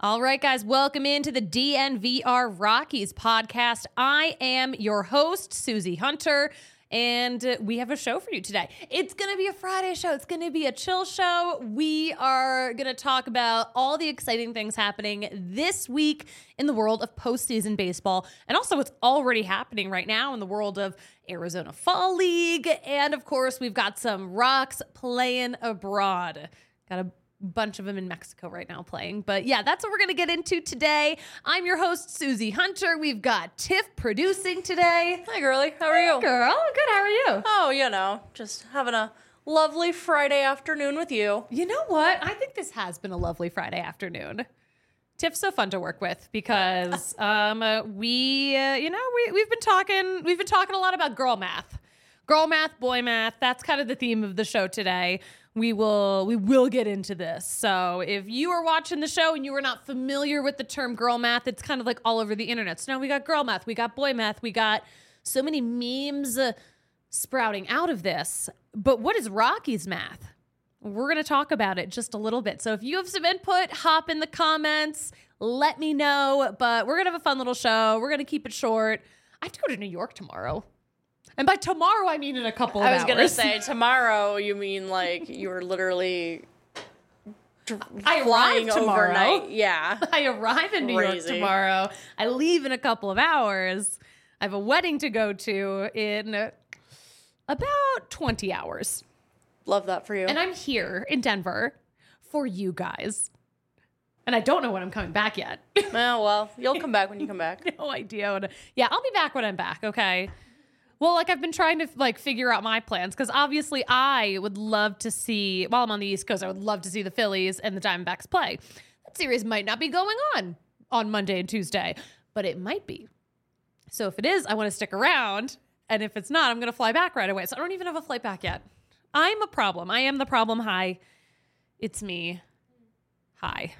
All right, guys, welcome into the DNVR Rockies podcast. I am your host, Susie Hunter, and we have a show for you today. It's going to be a Friday show. It's going to be a chill show. We are going to talk about all the exciting things happening this week in the world of postseason baseball, and also what's already happening right now in the world of Arizona Fall League. And, of course, we've got some Rocks playing abroad. Got a bunch of them in Mexico right now playing. But yeah, that's what we're going to get into today. I'm your host, Susie Hunter. We've got Tiff producing today. Hi, girlie. How are you? Girl, good. How are you? Oh, you know, just having a lovely Friday afternoon with you. You know what? I think this has been a lovely Friday afternoon. Tiff's so fun to work with because we've been talking a lot about girl math, boy math. That's kind of the theme of the show today. We will get into this. So if you are watching the show and you are not familiar with the term girl math, it's kind of like all over the internet. So now we got girl math, we got boy math, we got so many memes sprouting out of this. But what is Rockies math? We're going to talk about it just a little bit. So if you have some input, hop in the comments, let me know. But we're going to have a fun little show. We're going to keep it short. I have to go to New York tomorrow. And by tomorrow, I mean in a couple of hours. I was going to say, tomorrow, you mean like you were literally flying overnight. Yeah. I arrive in New York tomorrow. I leave in a couple of hours. I have a wedding to go to in about 20 hours. Love that for you. And I'm here in Denver for you guys. And I don't know when I'm coming back yet. Well, you'll come back when you come back. No idea. Yeah, I'll be back when I'm back, okay? Well, I've been trying to figure out my plans because obviously I would love to see, while I'm on the East Coast, I would love to see the Phillies and the Diamondbacks play. That series might not be going on Monday and Tuesday, but it might be. So if it is, I want to stick around. And if it's not, I'm going to fly back right away. So I don't even have a flight back yet. I'm a problem. I am the problem. Hi. It's me. Hi.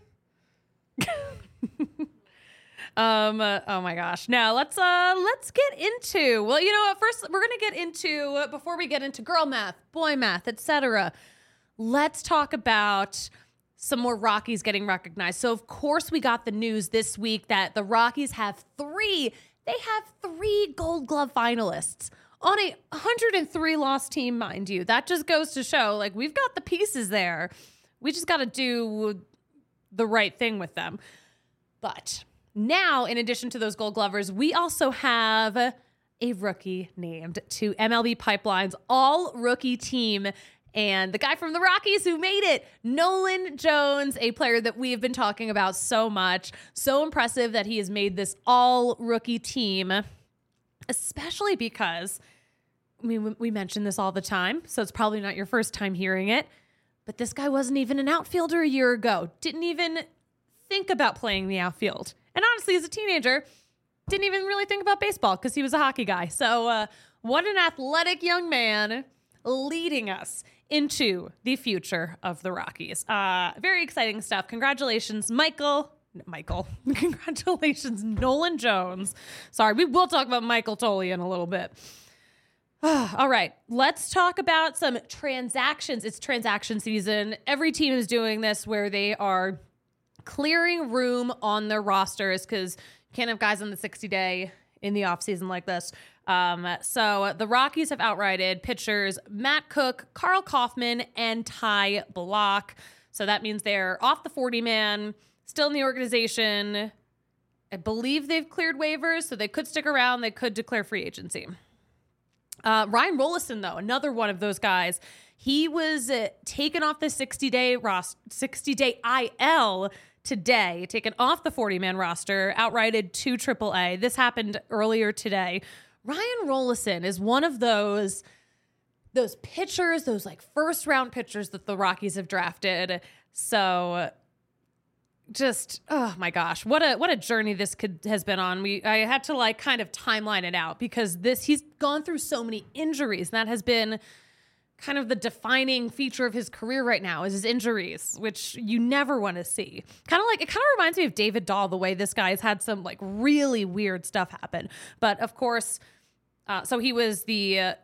Oh my gosh. Now let's get into, well, you know what? First, we're going to get into, before we get into girl math, boy math, etc. Let's talk about some more Rockies getting recognized. So of course we got the news this week that the Rockies have three Gold Glove finalists on a 103 loss team, mind you. That just goes to show, we've got the pieces there. We just got to do the right thing with them. But now, in addition to those Gold Glovers, we also have a rookie named to MLB Pipeline's all-rookie team. And the guy from the Rockies who made it, Nolan Jones, a player that we have been talking about so much. So impressive that he has made this all-rookie team, especially because, we mention this all the time, so it's probably not your first time hearing it, but this guy wasn't even an outfielder a year ago. Didn't even think about playing the outfield. And honestly, as a teenager, didn't even really think about baseball because he was a hockey guy. So what an athletic young man leading us into the future of the Rockies. Very exciting stuff. Congratulations, Michael. Congratulations, Nolan Jones. Sorry, we will talk about Michael Tolley in a little bit. All right, let's talk about some transactions. It's transaction season. Every team is doing this where they are clearing room on their rosters because you can't have guys on the 60-day in the offseason like this. So the Rockies have outrighted pitchers Matt Cook, Carl Kaufman, and Ty Block. So that means they're off the 40-man, still in the organization. I believe they've cleared waivers, so they could stick around. They could declare free agency. Ryan Rollison, though, another one of those guys, he was taken off the 60-day IL today, taken off the 40-man roster, outrighted to AAA. This happened earlier today. Ryan Rollison is one of those pitchers, those first-round pitchers that the Rockies have drafted. So just, oh my gosh, what a journey this has been on. I had to kind of timeline it out because he's gone through so many injuries. And that has been kind of the defining feature of his career right now is his injuries, which you never want to see. It kind of reminds me of David Dahl, the way this guy has had some really weird stuff happen. But of course, so he was the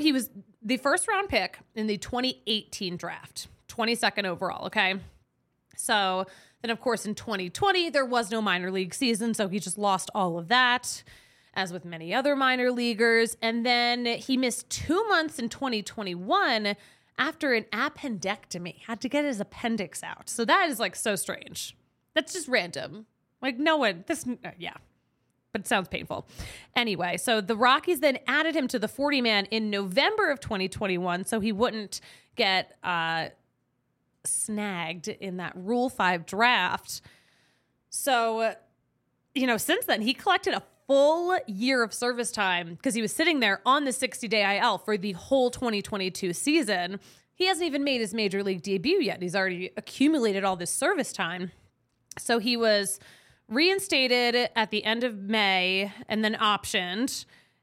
first round pick in the 2018 draft, 22nd overall. Okay. So then, of course, in 2020, there was no minor league season, so he just lost all of that, as with many other minor leaguers. And then he missed 2 months in 2021 after an appendectomy, had to get his appendix out. So that is like so strange. That's just random. Like no one, yeah. But it sounds painful. Anyway, so the Rockies then added him to the 40-man in November of 2021 so he wouldn't get snagged in that Rule 5 draft. So, since then, he collected a full year of service time because he was sitting there on the 60-day IL for the whole 2022 season. He hasn't even made his major league debut yet. He's already accumulated all this service time. So he was reinstated at the end of May and then optioned.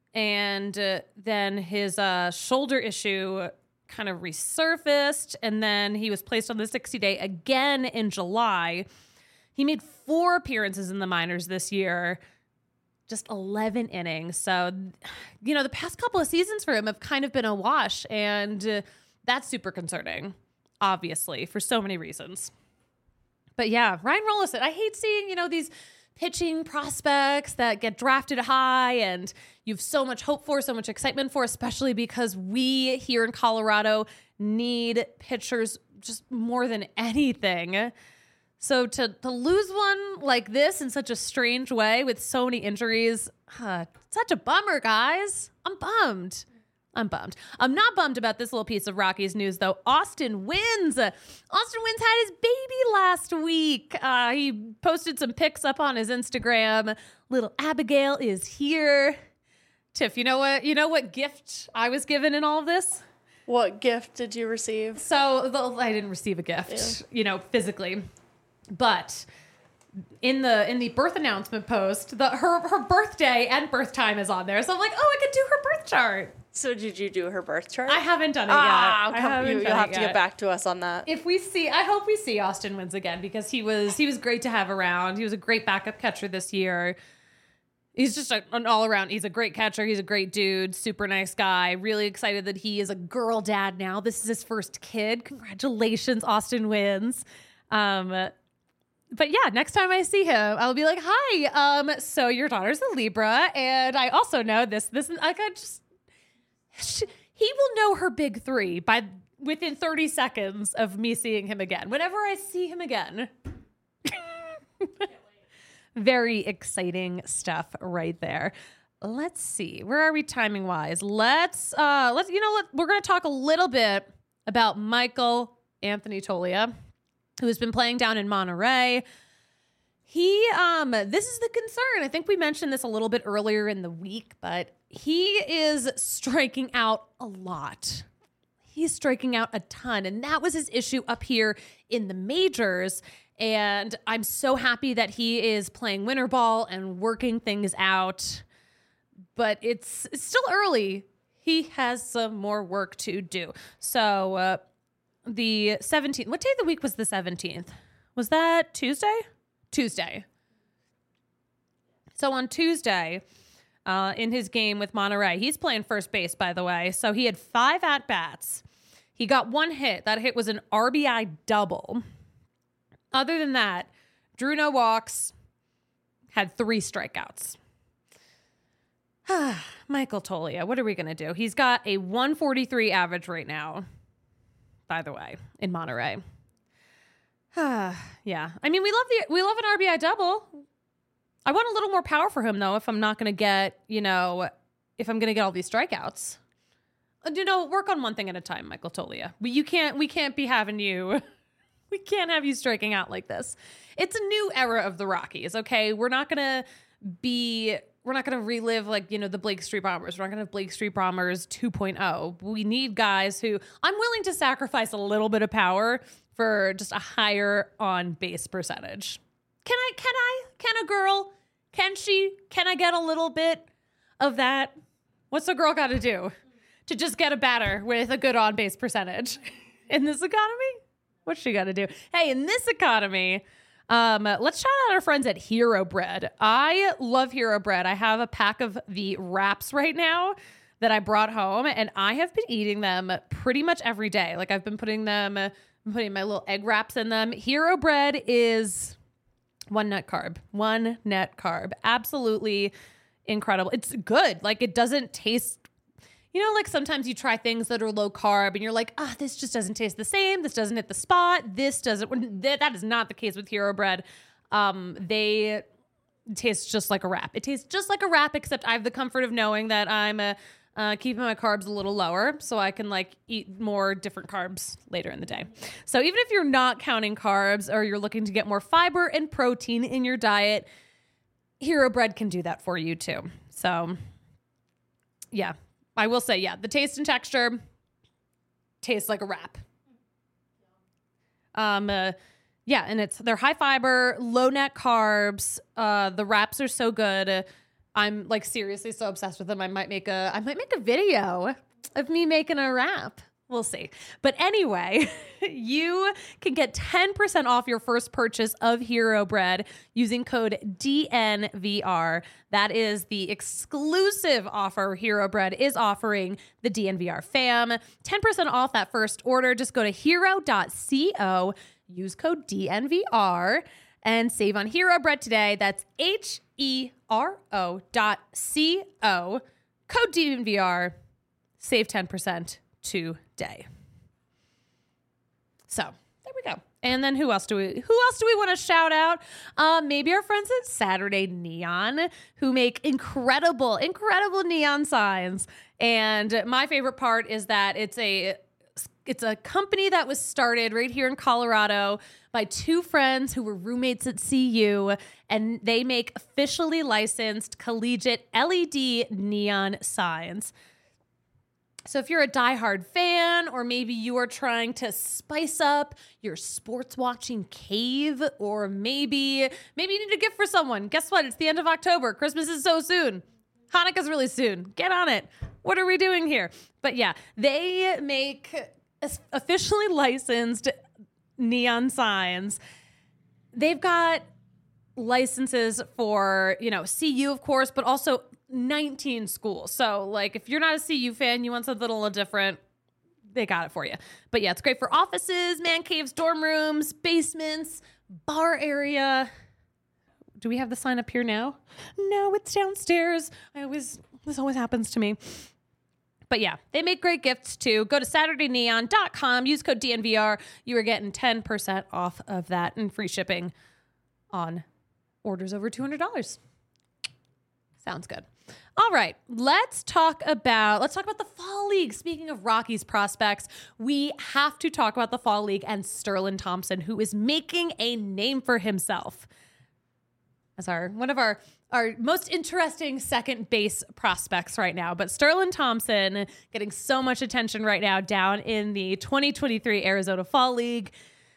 And then his shoulder issue kind of resurfaced. And then he was placed on the 60-day again in July. He made 4 appearances in the minors this year, just 11 innings. So, the past couple of seasons for him have kind of been a wash. And that's super concerning, obviously, for so many reasons. But yeah, Ryan Rollison, I hate seeing, these pitching prospects that get drafted high and you have so much hope for, so much excitement for, especially because we here in Colorado need pitchers just more than anything. So to lose one like this in such a strange way with so many injuries, such a bummer, guys. I'm bummed. I'm not bummed about this little piece of Rockies news, though. Austin Wynns had his baby last week. He posted some pics up on his Instagram. Little Abigail is here. Tiff, you know what gift I was given in all of this? What gift did you receive? So I didn't receive a gift, physically, but in the birth announcement post, her birthday and birth time is on there. So I'm like, I could do her birth chart. So did you do her birth chart? I haven't done it yet. You'll have to get back to us on that. I hope we see Austin Wynns again because he was great to have around. He was a great backup catcher this year. He's just an all around. He's a great catcher. He's a great dude. Super nice guy. Really excited that he is a girl dad now. This is his first kid. Congratulations, Austin Wynns. But yeah, next time I see him, I'll be like, hi. So your daughter's a Libra, and I also know this. He will know her big 3 within 30 seconds of me seeing him again. Whenever I see him again. Very exciting stuff right there. Let's see. Where are we timing wise? We're going to talk a little bit about Michael Anthony Toglia, who has been playing down in Monterey. This is the concern. I think we mentioned this a little bit earlier in the week, but he is striking out a lot. He's striking out a ton, and that was his issue up here in the majors. And I'm so happy that he is playing winter ball and working things out, but it's still early. He has some more work to do. So the 17th, what day of the week was the 17th? Was that Tuesday? Tuesday. So on Tuesday, in his game with Monterey, he's playing first base, by the way. So he had 5 at-bats. He got 1 hit. That hit was an RBI double. Other than that, drew no walks, had 3 strikeouts. Michael Toglia, what are we going to do? He's got a 143 average right now, by the way, in Monterey. Yeah. I mean, we love an RBI double. I want a little more power for him, though, if I'm not going to get, if I'm going to get all these strikeouts. Work on one thing at a time, Michael Toglia. We can't be having you. We can't have you striking out like this. It's a new era of the Rockies, okay? We're not going to relive the Blake Street Bombers. We're not going to have Blake Street Bombers 2.0. We need guys who I'm willing to sacrifice a little bit of power for just a higher on base percentage. Can a girl, can I get a little bit of that? What's a girl got to do to just get a batter with a good on base percentage in this economy? What's she got to do? Hey, in this economy, let's shout out our friends at Hero Bread. I love Hero Bread. I have a pack of the wraps right now that I brought home, and I have been eating them pretty much every day. Like I've been putting them I'm putting my little egg wraps in them. Hero bread is one net carb. Absolutely incredible. It's good. Like, it doesn't taste, like sometimes you try things that are low carb and you're like, this just doesn't taste the same. This doesn't hit the spot. This doesn't, that is not the case with Hero bread. They taste just like a wrap. It tastes just like a wrap, except I have the comfort of knowing that I'm keeping my carbs a little lower so I can eat more different carbs later in the day. So even if you're not counting carbs or you're looking to get more fiber and protein in your diet, Hero bread can do that for you too. So yeah, I will say, the taste and texture tastes like a wrap. And they're high fiber, low net carbs. The wraps are so good. I'm seriously so obsessed with them. I might make a video of me making a wrap. We'll see. But anyway, you can get 10% off your first purchase of Hero bread using code DNVR. That is the exclusive offer Hero bread is offering the DNVR fam. 10% off that first order. Just go to hero.co, use code DNVR, and save on Hero bread today. That's HERO.co, code DNVR, save 10% today. So there we go. And then who else do we want to shout out? Maybe our friends at Saturday Neon, who make incredible neon signs. And my favorite part is that it's a company that was started right here in Colorado by two friends who were roommates at CU, and they make officially licensed collegiate LED neon signs. So if you're a diehard fan, or maybe you are trying to spice up your sports watching cave, or maybe you need a gift for someone. Guess what? It's the end of October. Christmas is so soon. Hanukkah's really soon. Get on it. What are we doing here? But yeah, they make officially licensed neon signs. They've got licenses for, CU, of course, but also 19 schools. So if you're not a CU fan, you want something a little different, they got it for you. But yeah, it's great for offices, man caves, dorm rooms, basements, bar area. Do we have the sign up here now? No, it's downstairs. This always happens to me. But yeah, they make great gifts too. Go to SaturdayNeon.com, use code DNVR. You are getting 10% off of that and free shipping on orders over $200. Sounds good. All right, let's talk about the Fall League. Speaking of Rockies prospects, we have to talk about the Fall League and Sterling Thompson, who is making a name for himself as one of our most interesting second base prospects right now. But Sterling Thompson getting so much attention right now down in the 2023 Arizona Fall League.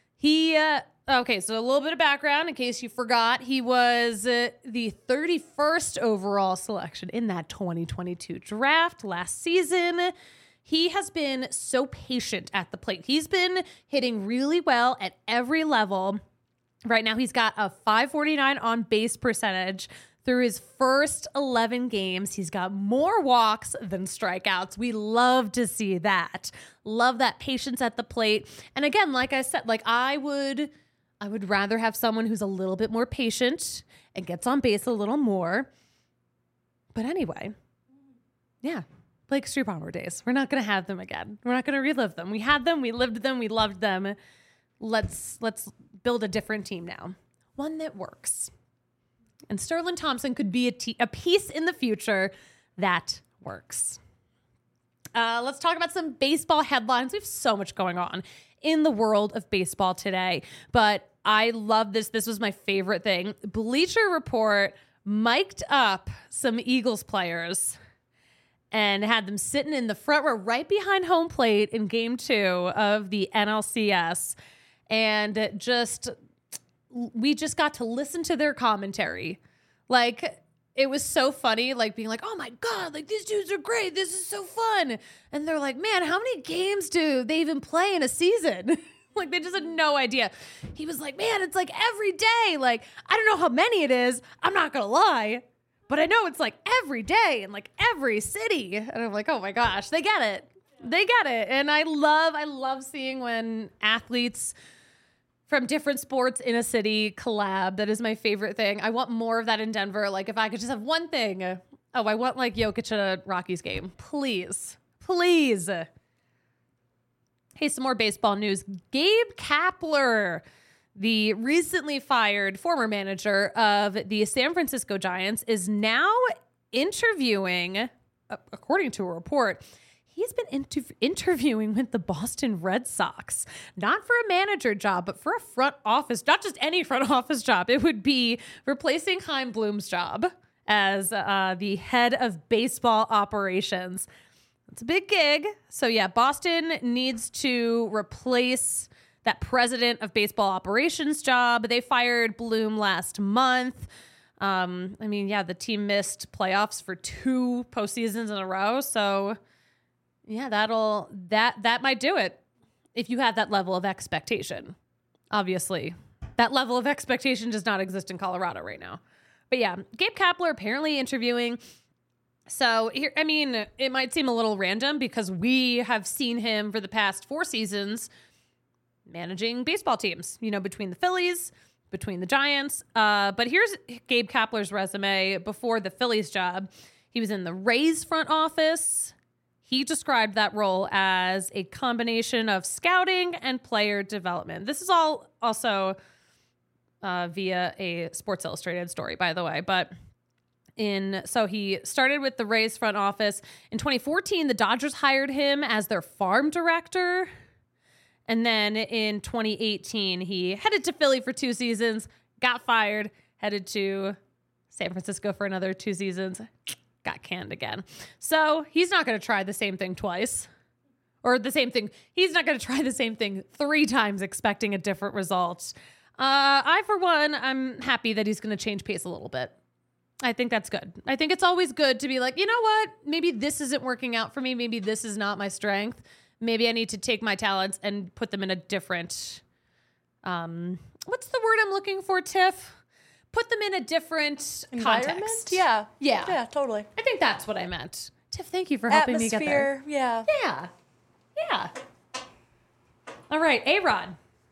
Okay, so a little bit of background in case you forgot. He was the 31st overall selection in that 2022 draft last season. He has been so patient at the plate. He's been hitting really well at every level. Right now, he's got a .549 on base percentage. Through his first 11 games, he's got more walks than strikeouts. We love to see that. Love that patience at the plate. And again, like I said, I would rather have someone who's a little bit more patient and gets on base a little more. But anyway, yeah, Blake Strupauer days. We're not going to have them again. We're not going to relive them. We had them. We lived them. We loved them. Let's build a different team now. One that works. And Sterling Thompson could be a piece in the future that works. Let's talk about some baseball headlines. We have so much going on in the world of baseball today, but I love this. This was my favorite thing. Bleacher Report mic'd up some Eagles players and had them sitting in the front row right behind home plate in game 2 of the NLCS. And we just got to listen to their commentary. It was so funny, being like, oh my God, these dudes are great. This is so fun. And they're like, man, how many games do they even play in a season? They just had no idea. He was like, man, it's every day. I don't know how many it is. I'm not going to lie. But I know it's every day in every city. And I'm like, oh my gosh, they get it. They get it. And I love seeing when athletes from different sports in a city collab. That is my favorite thing. I want more of that in Denver. Like if I could just have one thing. Oh, I want like Jokic at a Rockies game. Please. Please. Hey, some more baseball news. Gabe Kapler, the recently fired former manager of the San Francisco Giants, is now interviewing, according to a report, he's been interviewing with the Boston Red Sox, not for a manager job, but for a front office, not just any front office job. It would be replacing Chaim Bloom's job as the head of baseball operations. It's a big gig. So yeah, Boston needs to replace that president of baseball operations job. They fired Bloom last month. The team missed playoffs for 2 postseasons in a row. So yeah, that might do it if you have that level of expectation. Obviously, that level of expectation does not exist in Colorado right now. But yeah, Gabe Kapler apparently interviewing. So here, it might seem a little random because we have seen him for the past 4 seasons managing baseball teams, between the Phillies, between the Giants. But here's Gabe Kapler's resume before the Phillies job. He was in the Rays front office. He described that role as a combination of scouting and player development. This is all also via a Sports Illustrated story, by the way. But so he started with the Rays front office. In 2014, the Dodgers hired him as their farm director. And then in 2018, he headed to Philly for 2 seasons, got fired, headed to San Francisco for another 2 seasons, got canned again. So he's not going to try the same thing twice. Or the same thing. He's not going to try the same thing 3 times expecting a different result. I, for one, I'm happy that he's going to change pace a little bit. I think that's good. I think it's always good to be like, you know what? Maybe this isn't working out for me. Maybe this is not my strength. Maybe I need to take my talents and put them in a different, what's the word I'm looking for, Tiff? Put them in a different context. Yeah. Yeah. Yeah, totally. I think that's what I meant. Tiff, thank you for helping me get there. Yeah. Yeah. Yeah. All right. A-Rod.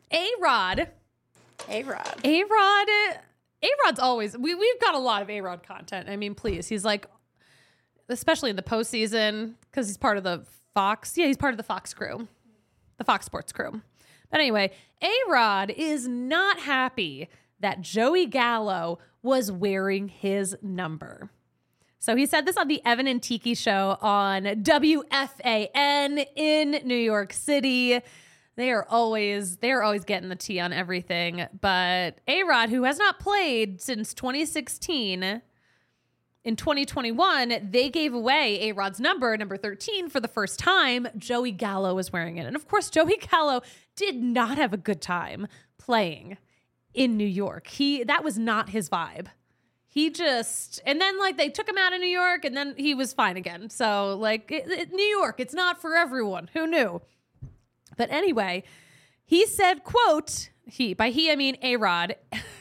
A-Rod's always, we've got a lot of A-Rod content. Please. He's like, especially in the postseason, because he's part of the Fox. Yeah, he's part of the Fox crew, the Fox Sports crew. But anyway, A-Rod is not happy that Joey Gallo was wearing his number. So he said this on the Evan and Tiki show on WFAN in New York City. They are always getting the tea on everything. But A-Rod, who has not played since 2016, in 2021, they gave away A-Rod's number 13, for the first time. Joey Gallo was wearing it. And of course, Joey Gallo did not have a good time playing in New York. That was not his vibe. And then they took him out of New York and then he was fine again. So New York, it's not for everyone. Who knew? But anyway, he said, quote, by he, I mean A-Rod.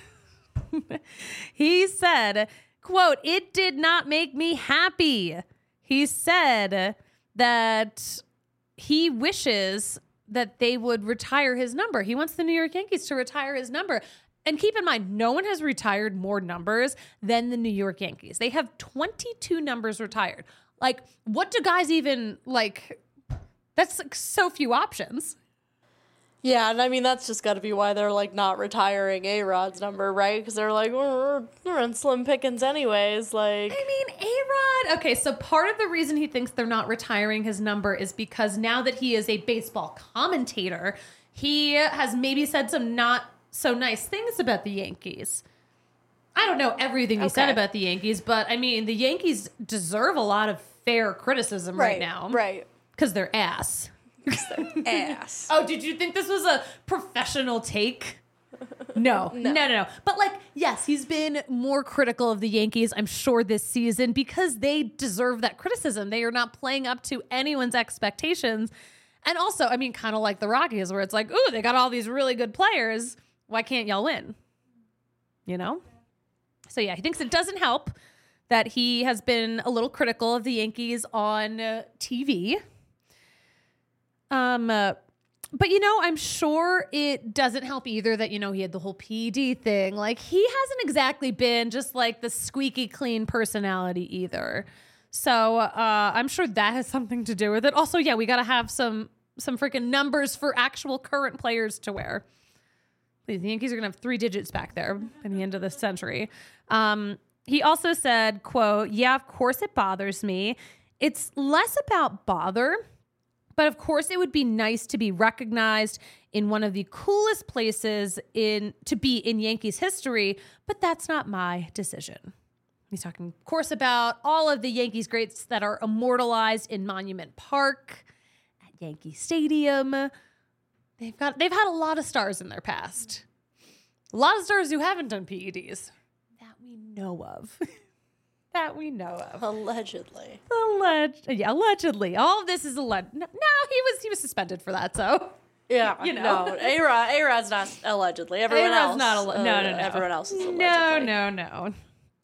He said, quote, "It did not make me happy." He said that he wishes that they would retire his number. He wants the New York Yankees to retire his number. And keep in mind, no one has retired more numbers than the New York Yankees. They have 22 numbers retired. What do guys even, that's so few options. Yeah, and that's just got to be why they're not retiring A-Rod's number, right? Because they're we're in slim pickings anyways. A-Rod. Okay, so part of the reason he thinks they're not retiring his number is because now that he is a baseball commentator, he has maybe said some not so nice things about the Yankees. I don't know everything he said about the Yankees, but the Yankees deserve a lot of fair criticism right now. Right. Because they're ass. Ass. Oh, did you think this was a professional take? No. But yes, he's been more critical of the Yankees, I'm sure, this season because they deserve that criticism. They are not playing up to anyone's expectations. And also, kind of like the Rockies, where it's ooh, they got all these really good players. Why can't y'all win? So yeah, he thinks it doesn't help that he has been a little critical of the Yankees on TV. But, I'm sure it doesn't help either that, he had the whole PED thing. Like, he hasn't exactly been just like the squeaky clean personality either. So I'm sure that has something to do with it. Also, yeah, we got to have some freaking numbers for actual current players to wear. The Yankees are going to have 3 digits back there by the end of this century. He also said, quote, yeah, of course it bothers me. It's less about bother, but of course it would be nice to be recognized in one of the coolest places to be in Yankees history, but that's not my decision. He's talking, of course, about all of the Yankees greats that are immortalized in Monument Park, at Yankee Stadium. They've had a lot of stars in their past. A lot of stars who haven't done PEDs that we know of. Allegedly. Allegedly. All of this is alleged. No, he was suspended for that, so. Yeah, no, A-Rod's not allegedly. Everyone else. No. Everyone else is allegedly. No.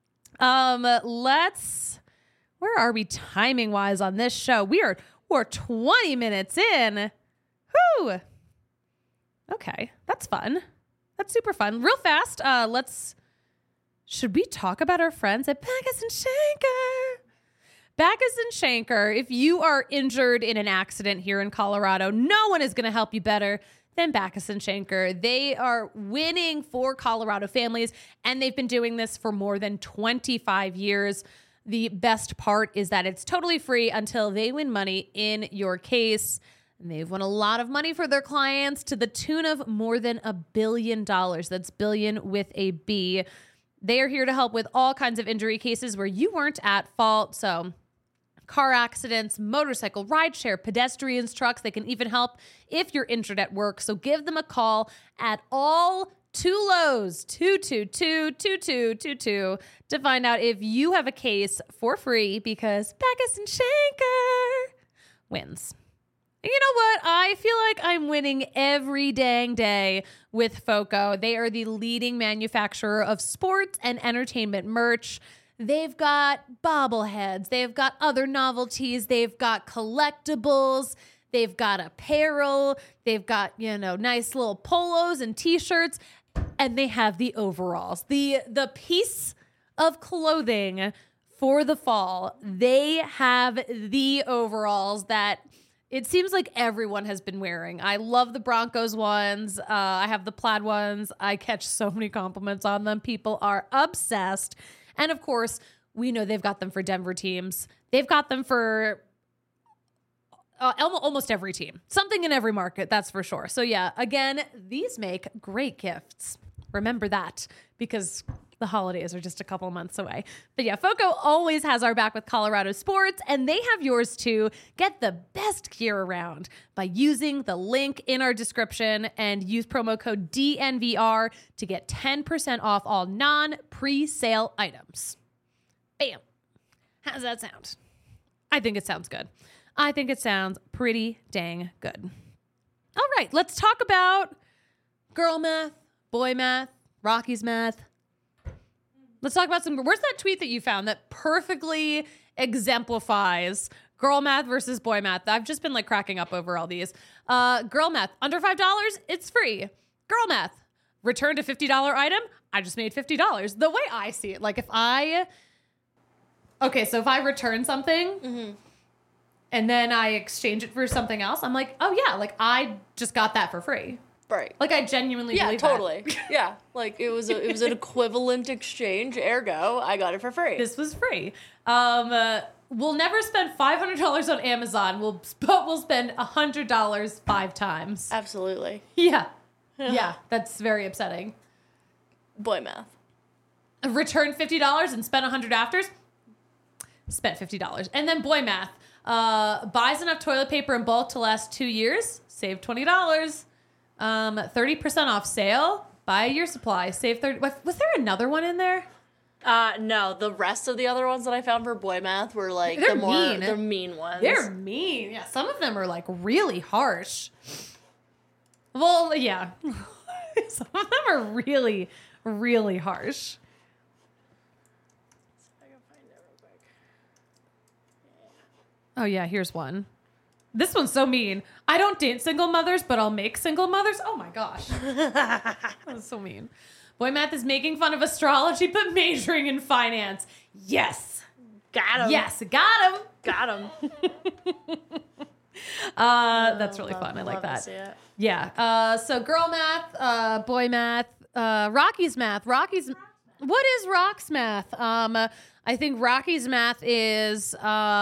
Where are we timing wise on this show? We're 20 minutes in. Whew. Okay, that's fun. That's super fun. Real fast, should we talk about our friends at Backus and Shanker? Backus and Shanker, if you are injured in an accident here in Colorado, no one is going to help you better than Backus and Shanker. They are winning for Colorado families, and they've been doing this for more than 25 years. The best part is that it's totally free until they win money in your case. And they've won a lot of money for their clients to the tune of more than $1 billion. That's billion with a B. They are here to help with all kinds of injury cases where you weren't at fault. So car accidents, motorcycle, rideshare, pedestrians, trucks. They can even help if you're injured at work. So give them a call at all 2 Lows, 222-2222 to find out if you have a case for free, because Backus and Shanker wins. You know what? I feel like I'm winning every dang day with FOCO. They are the leading manufacturer of sports and entertainment merch. They've got bobbleheads. They've got other novelties. They've got collectibles. They've got apparel. They've got, nice little polos and t-shirts. And they have the overalls. The piece of clothing for the fall. They have the overalls that it seems like everyone has been wearing. I love the Broncos ones. I have the plaid ones. I catch so many compliments on them. People are obsessed. And of course, we know they've got them for Denver teams. They've got them for almost every team. Something in every market, that's for sure. So yeah, again, these make great gifts. Remember that, because the holidays are just a couple months away. But yeah, FOCO always has our back with Colorado sports, and they have yours too. Get the best gear around by using the link in our description and use promo code DNVR to get 10% off all non-pre-sale items. Bam. How does that sound? I think it sounds good. I think it sounds pretty dang good. All right, let's talk about girl math, boy math, Rocky's math. Let's talk about where's that tweet that you found that perfectly exemplifies girl math versus boy math? I've just been cracking up over all these. Girl math, under $5, it's free. Girl math, return to $50 item, I just made $50. The way I see it, if I return something and then I exchange it for something else, I'm like, oh yeah, I just got that for free. Right. I genuinely believe totally. that. Yeah. It was an equivalent exchange, ergo, I got it for free. This was free. We'll never spend $500 on Amazon. We'll spend $100 5 times. Absolutely. Yeah. Yeah, that's very upsetting. Boy math. Return $50 and spend $100 after. Spent $50. And then boy math. Buys enough toilet paper in bulk to last 2 years. Save $20. 30% off sale. Buy a year supply. Save 30. Was there another one in there? No. The rest of the other ones that I found for boy math were they're mean. The mean ones. They're mean. Yeah, some of them are really harsh. Well, yeah. Some of them are really, really harsh. I can find it real quick. Oh yeah, here's one. This one's so mean. I don't date single mothers, but I'll make single mothers. Oh my gosh. That was so mean. Boy Math is making fun of astrology, but majoring in finance. Yes. Got him. Yes, got him. Got him. That's really fun. I like that. Yeah. So girl math, boy math, Rocky's math. What is Rock's math? I think Rocky's math is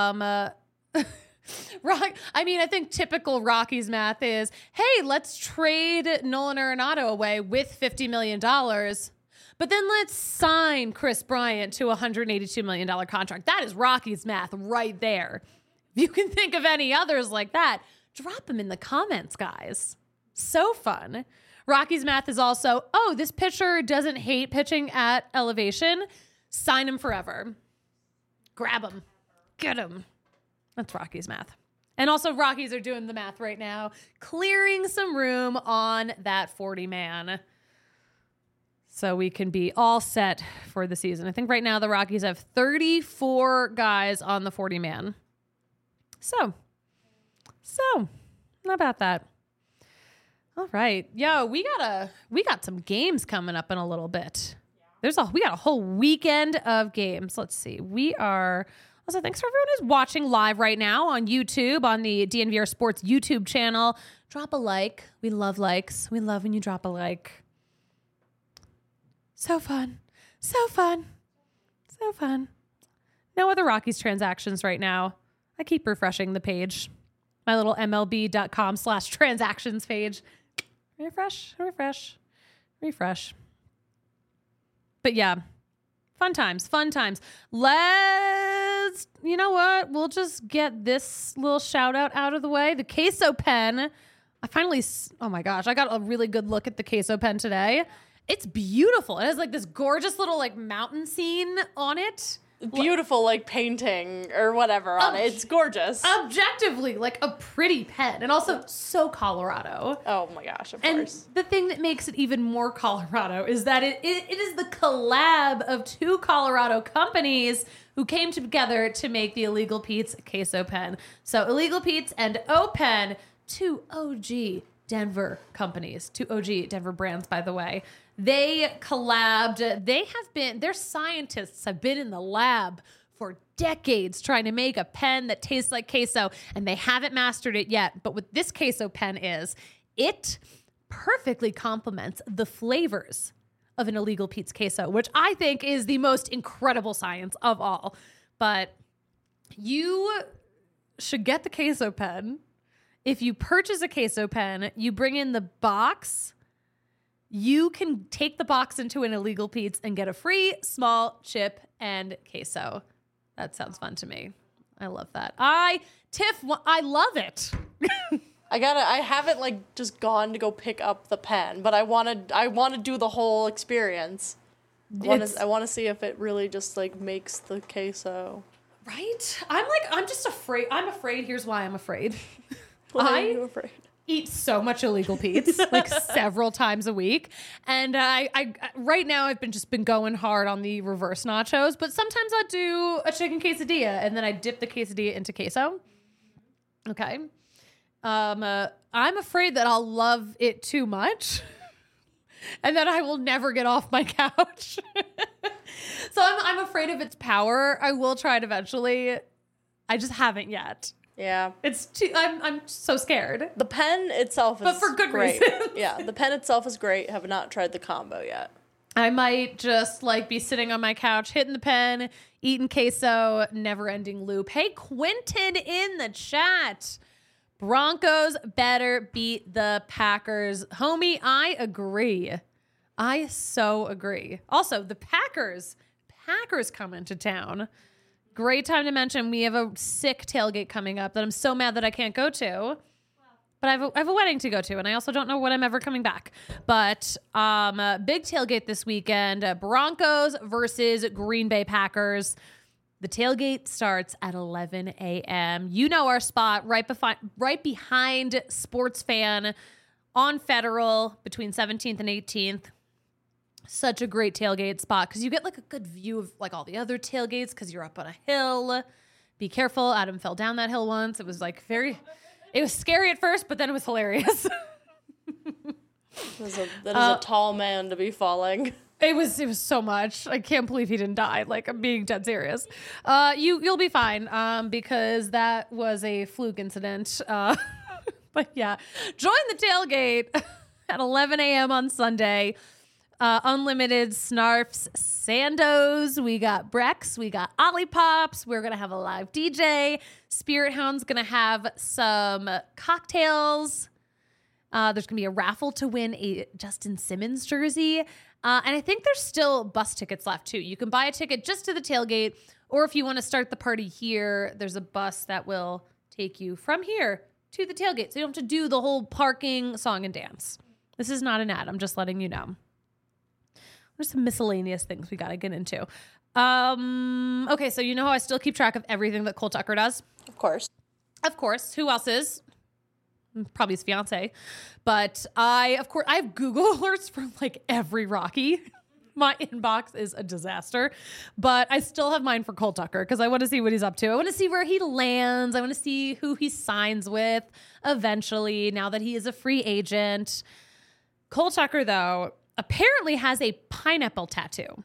I think typical Rocky's math is, hey, let's trade Nolan Arenado away with $50 million. But then let's sign Chris Bryant to a $182 million contract. That is Rocky's math right there. If you can think of any others like that, drop them in the comments, guys. So fun. Rocky's math is also, oh, this pitcher doesn't hate pitching at elevation. Sign him forever. Grab him. Get him. That's Rocky's math. And also Rockies are doing the math right now, clearing some room on that 40-man. So we can be all set for the season. I think right now the Rockies have 34 guys on the 40-man. So, not about that. All right. Yo, we got some games coming up in a little bit. We got a whole weekend of games. Let's see. Also, thanks for everyone who's watching live right now on YouTube, on the DNVR Sports YouTube channel. Drop a like. We love likes. We love when you drop a like. So fun. So fun. So fun. No other Rockies transactions right now. I keep refreshing the page. My little MLB.com/transactions page. Refresh. But yeah, fun times. You know what? We'll just get this little shout out of the way. The Queso pen. Oh my gosh, I got a really good look at the Queso pen today. It's beautiful. It has like this gorgeous little like mountain scene on it. Beautiful, like painting or whatever on it. It's gorgeous. Objectively, like a pretty pen. And also so Colorado. Oh my gosh, of And course. the thing that makes it even more Colorado is that it is the collab of two Colorado companies who came together to make the Illegal Pete's Queso pen. So Illegal Pete's and O-Pen, two OG Denver companies, two OG Denver brands, by the way. They collabed. Their scientists have been in the lab for decades trying to make a pen that tastes like queso, and they haven't mastered it yet. But what this Queso pen is, it perfectly complements the flavors of an Illegal Pete's Queso, which I think is the most incredible science of all. But you should get the Queso pen. If you purchase a Queso pen, you bring in the box. You can take the box into an Illegal Pete's and get a free small chip and queso. That sounds fun to me. I love that. I love it. I haven't like just gone to go pick up the pen, but I want to do the whole experience. I want to see if it really just like makes the queso. Right? I'm just afraid. I'm afraid. Here's why I'm afraid. Why are you afraid? Eat so much Illegal Pete's like several times a week, and I right now I've been going hard on the reverse nachos, but sometimes I'll do a chicken quesadilla and then I dip the quesadilla into queso. Okay, I'm afraid that I'll love it too much, and that I will never get off my couch. So I'm afraid of its power. I will try it eventually. I just haven't yet. Yeah. I'm so scared. The pen itself is But for good great. reason. Yeah, the pen itself is great. Have not tried the combo yet. I might just like be sitting on my couch, hitting the pen, eating queso, never ending loop. Hey, Quentin in the chat. Broncos better beat the Packers. Homie, I agree. I so agree. Also, the Packers come into town. Great time to mention we have a sick tailgate coming up that I'm so mad that I can't go to. But I have a wedding to go to, and I also don't know when I'm ever coming back. But big tailgate this weekend. Broncos versus Green Bay Packers. The tailgate starts at 11 a.m. You know our spot right behind Sports Fan on Federal between 17th and 18th. Such a great tailgate spot because you get like a good view of like all the other tailgates because you're up on a hill. Be careful. Adam fell down that hill once. It was like very... It was scary at first, but then it was hilarious. That is a tall man to be falling. It was so much. I can't believe he didn't die. Like, I'm being dead serious. You'll be fine, because that was a fluke incident. But yeah, join the tailgate at 11 a.m. on Sunday. Unlimited Snarfs Sandos. We got Brex. We got Ollipops. We're going to have a live DJ. Spirit Hound's going to have some cocktails. There's going to be a raffle to win a Justin Simmons jersey. And I think there's still bus tickets left too. You can buy a ticket just to the tailgate, or if you want to start the party here, there's a bus that will take you from here to the tailgate. So you don't have to do the whole parking, song, and dance. This is not an ad. I'm just letting you know. There's some miscellaneous things we got to get into. Okay, so you know how I still keep track of everything that Cole Tucker does? Of course. Of course. Who else is? Probably his fiance. But I have Google alerts for like every Rocky. My inbox is a disaster. But I still have mine for Cole Tucker because I want to see what he's up to. I want to see where he lands. I want to see who he signs with eventually, now that he is a free agent. Cole Tucker, though, apparently has a pineapple tattoo.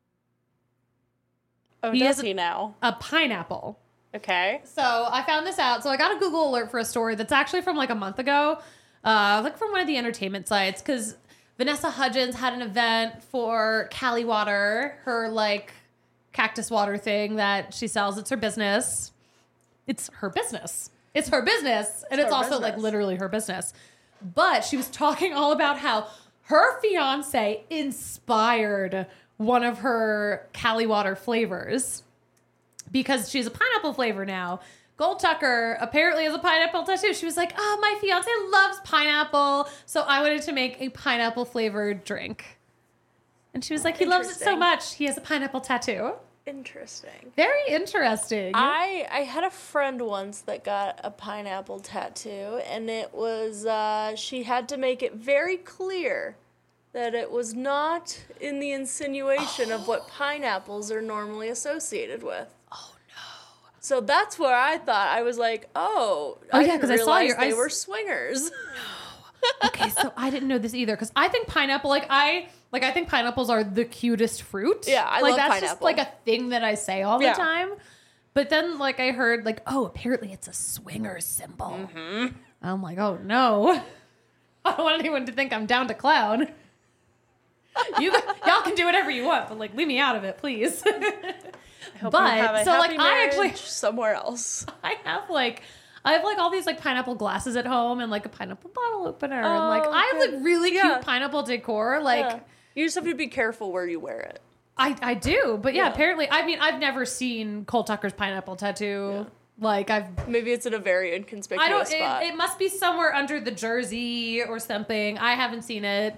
Oh, does he now? A pineapple. Okay. So I found this out. So I got a Google alert for a story that's actually from like a month ago, like from one of the entertainment sites, because Vanessa Hudgens had an event for Cali Water, her like cactus water thing that she sells. It's her business. It's her business. It's her business. And it's also like literally her business. But she was talking all about how her fiance inspired one of her Cali Water flavors because she's a pineapple flavor now. Gold Tucker apparently has a pineapple tattoo. She was like, oh, my fiance loves pineapple, so I wanted to make a pineapple flavored drink. And she was like, he loves it so much, he has a pineapple tattoo. Interesting. Very interesting. I had a friend once that got a pineapple tattoo, and it was, she had to make it very clear that it was not in the insinuation of what pineapples are normally associated with. Oh, no. So that's where I thought, I was like, I yeah, because I saw they were swingers. Okay, so I didn't know this either, because I think pineapple, I think pineapples are the cutest fruit. Yeah, I love that's pineapple. Just like a thing that I say all the time. But then like I heard like, oh, apparently it's a swinger symbol. Mm-hmm. I'm like, oh no, I don't want anyone to think I'm down to clown. Y'all can do whatever you want, but like leave me out of it, please. I hope you have a happy marriage somewhere else. I have like all these like pineapple glasses at home and like a pineapple bottle opener and like I have like really cute pineapple decor. Like you just have to be careful where you wear it. I do, but apparently, I mean, I've never seen Cole Tucker's pineapple tattoo. Yeah. Like maybe it's in a very inconspicuous spot. It must be somewhere under the jersey or something. I haven't seen it.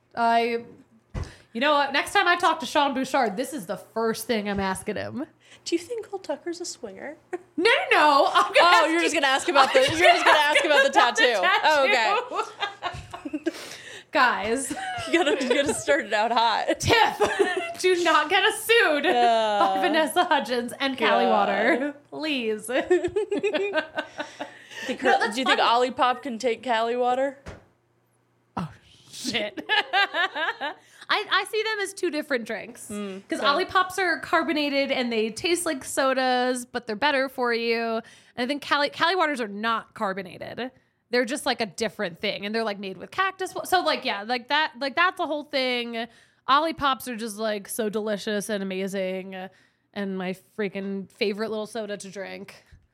You know what? Next time I talk to Sean Bouchard, this is the first thing I'm asking him. Do you think Cole Tucker's a swinger? No. You're just gonna ask about the tattoo. Oh, okay. Guys, you gotta start it out hot. Tiff, do not get us sued by Vanessa Hudgens and Cali Water, please. Do you think Olipop can take Cali Water? Oh shit. I see them as two different drinks because Olipops are carbonated and they taste like sodas, but they're better for you. And I think Cali Waters are not carbonated. They're just like a different thing, and they're like made with cactus. So like that's the whole thing. Olipops are just like so delicious and amazing, and my freaking favorite little soda to drink.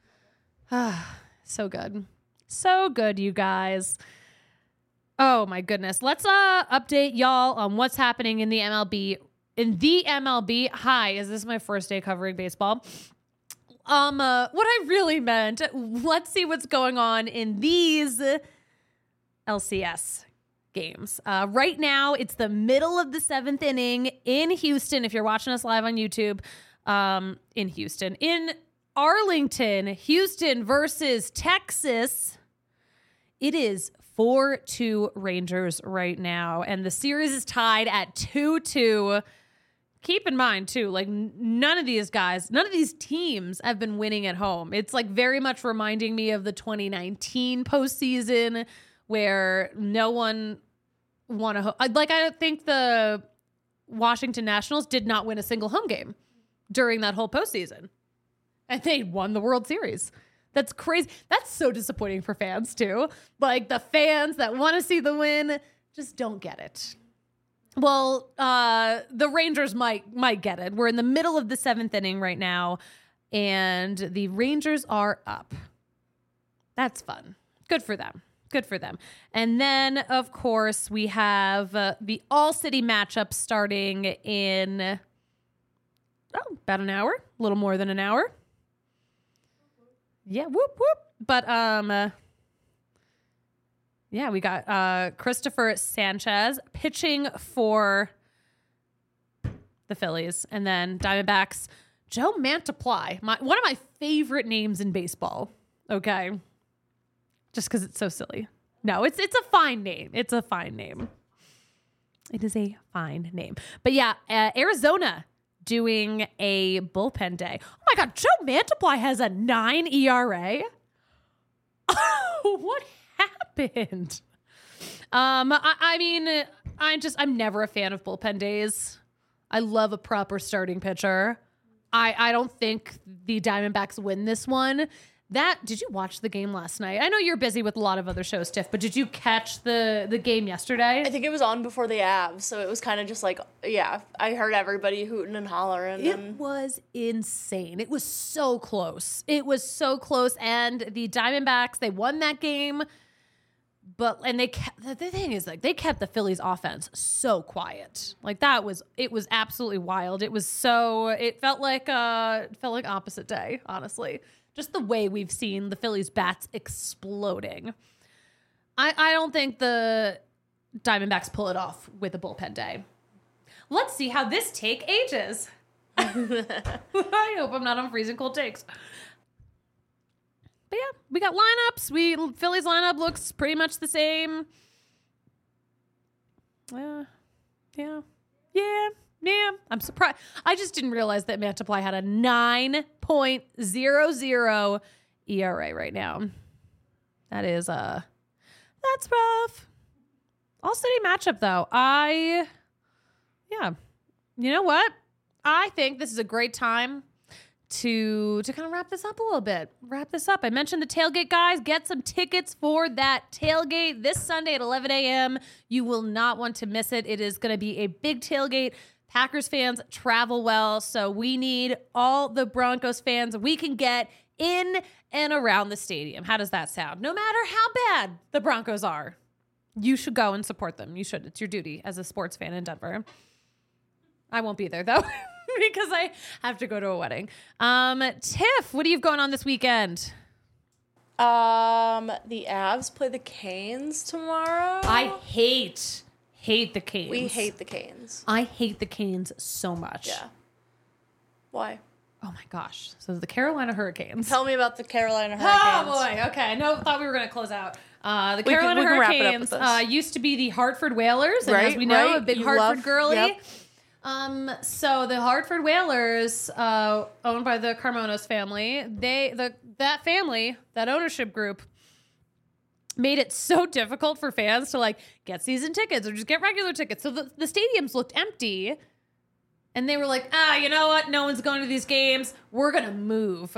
So good, you guys. Oh my goodness. Let's update y'all on what's happening in the MLB. Hi, is this my first day covering baseball? What I really meant, let's see what's going on in these LCS games. Right now, it's the middle of the 7th inning in Houston. If you're watching us live on YouTube, in Houston. In Arlington, Houston versus Texas, it is 4-2 Rangers right now, and the series is tied at 2-2. keep in mind too, like none of these teams have been winning at home. It's like very much reminding me of the 2019 postseason where no one won I think the Washington Nationals did not win a single home game during that whole postseason. And they won the World Series. That's crazy. That's so disappointing for fans too. Like the fans that want to see the win just don't get it. Well, the Rangers might get it. We're in the middle of the 7th inning right now, and the Rangers are up. That's fun. Good for them. Good for them. And then, of course, we have the All-City matchup starting in about an hour, a little more than an hour. Yeah, whoop, whoop. But, yeah, we got Christopher Sanchez pitching for the Phillies. And then Diamondbacks, Joe Mantiply, one of my favorite names in baseball. Okay. Just because it's so silly. No, it's a fine name. It's a fine name. It is a fine name. But yeah, Arizona doing a bullpen day. Oh my God, Joe Mantiply has a 9 ERA. Oh, what happened? I mean, I'm never a fan of bullpen days. I love a proper starting pitcher. I don't think the Diamondbacks win this one. Did you watch the game last night? I know you're busy with a lot of other shows, Tiff, but did you catch the game yesterday? I think it was on before the Avs, so it was kind of just like, yeah, I heard everybody hooting and hollering. It was insane. It was so close. It was so close, and the Diamondbacks, they won that game, and the thing is, like, they kept the Phillies offense so quiet. Like, it was absolutely wild. It felt like opposite day, honestly. Just the way we've seen the Phillies bats exploding. I don't think the Diamondbacks pull it off with a bullpen day. Let's see how this take ages. I hope I'm not on freezing cold takes. But yeah, we got lineups. Phillies lineup looks pretty much the same. Yeah. I'm surprised. I just didn't realize that Mantiply had a 9.00 ERA right now. That's rough. All-City matchup, though. You know what? I think this is a great time to kind of wrap this up a little bit. I mentioned the tailgate, guys. Get some tickets for that tailgate this Sunday at 11 a.m. You will not want to miss it. It is going to be a big tailgate. Packers fans travel well, so we need all the Broncos fans we can get in and around the stadium. How does that sound? No matter how bad the Broncos are, you should go and support them. You should. It's your duty as a sports fan in Denver. I won't be there, though, because I have to go to a wedding. Tiff, what do you have going on this weekend? The Avs play the Canes tomorrow. I hate the Canes. We hate the Canes. I hate the Canes so much. Yeah. Why? Oh my gosh. So the Carolina Hurricanes. Tell me about the Carolina Hurricanes. Oh boy. Okay. Thought we were going to close out. The Carolina Hurricanes used to be the Hartford Whalers. And as we know, a big Hartford girly. Yep. So the Hartford Whalers, owned by the Carmonos family, that ownership group made it so difficult for fans to like get season tickets or just get regular tickets. So the stadiums looked empty, and they were like, you know what? No one's going to these games. We're going to move.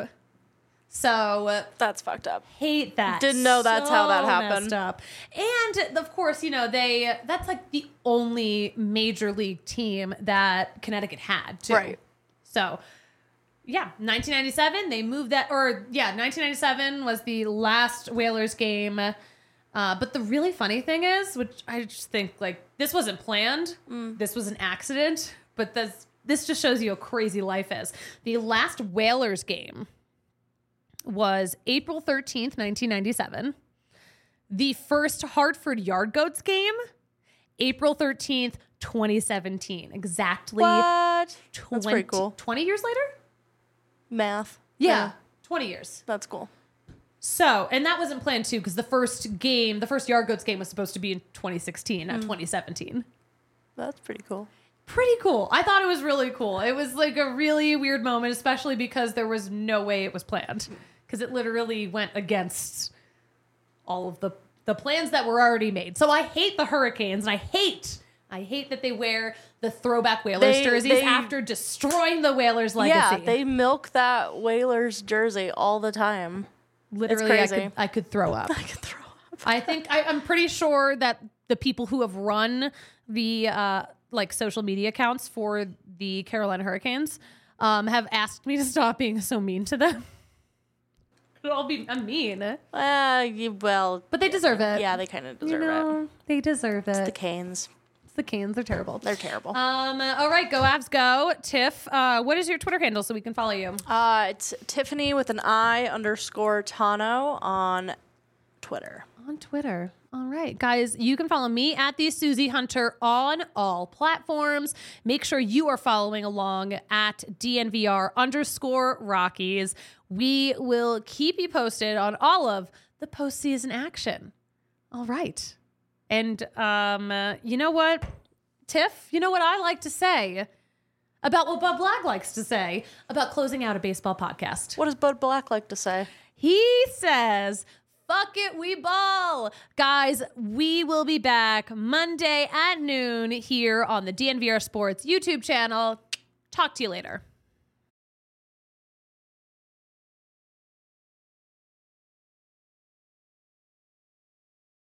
So that's fucked up. Hate that. Didn't know that's how that happened. Messed up. And of course, that's like the only major league team that Connecticut had too. Right. So yeah, 1997, they moved that, 1997 was the last Whalers game. But the really funny thing is, which I just think, like, this wasn't planned. This was an accident. But this just shows you how crazy life is. The last Whalers game was April 13th, 1997. The first Hartford Yard Goats game, April 13th, 2017. Exactly. What? That's pretty cool. 20 years later? Math. Yeah. 20 years. That's cool. So, and that wasn't planned too, because the first Yard Goats game was supposed to be in 2016, not 2017. That's pretty cool. pretty cool. I thought it was really cool. It was like a really weird moment, especially because there was no way it was planned. Because it literally went against all of the plans that were already made. So I hate the Hurricanes, and I hate that they wear the throwback Whalers jerseys after destroying the Whalers legacy. Yeah, they milk that Whalers jersey all the time. Literally, it's crazy. I could throw up. I could throw up. I think I'm pretty sure that the people who have run the like social media accounts for the Carolina Hurricanes have asked me to stop being so mean to them. I'm mean. But they deserve it. Yeah, they kind of deserve it. They deserve it. The Canes. The Canes are terrible. They're terrible. All right, go Avs, go. Tiff, what is your Twitter handle so we can follow you? It's Tiffany with an I_Tano on Twitter. On Twitter. All right, guys, you can follow me at the Susie Hunter on all platforms. Make sure you are following along at DNVR_Rockies. We will keep you posted on all of the postseason action. All right. And you know what, Tiff? You know what I like to say about what Bud Black likes to say about closing out a baseball podcast? What does Bud Black like to say? He says, fuck it, we ball. Guys, we will be back Monday at noon here on the DNVR Sports YouTube channel. Talk to you later.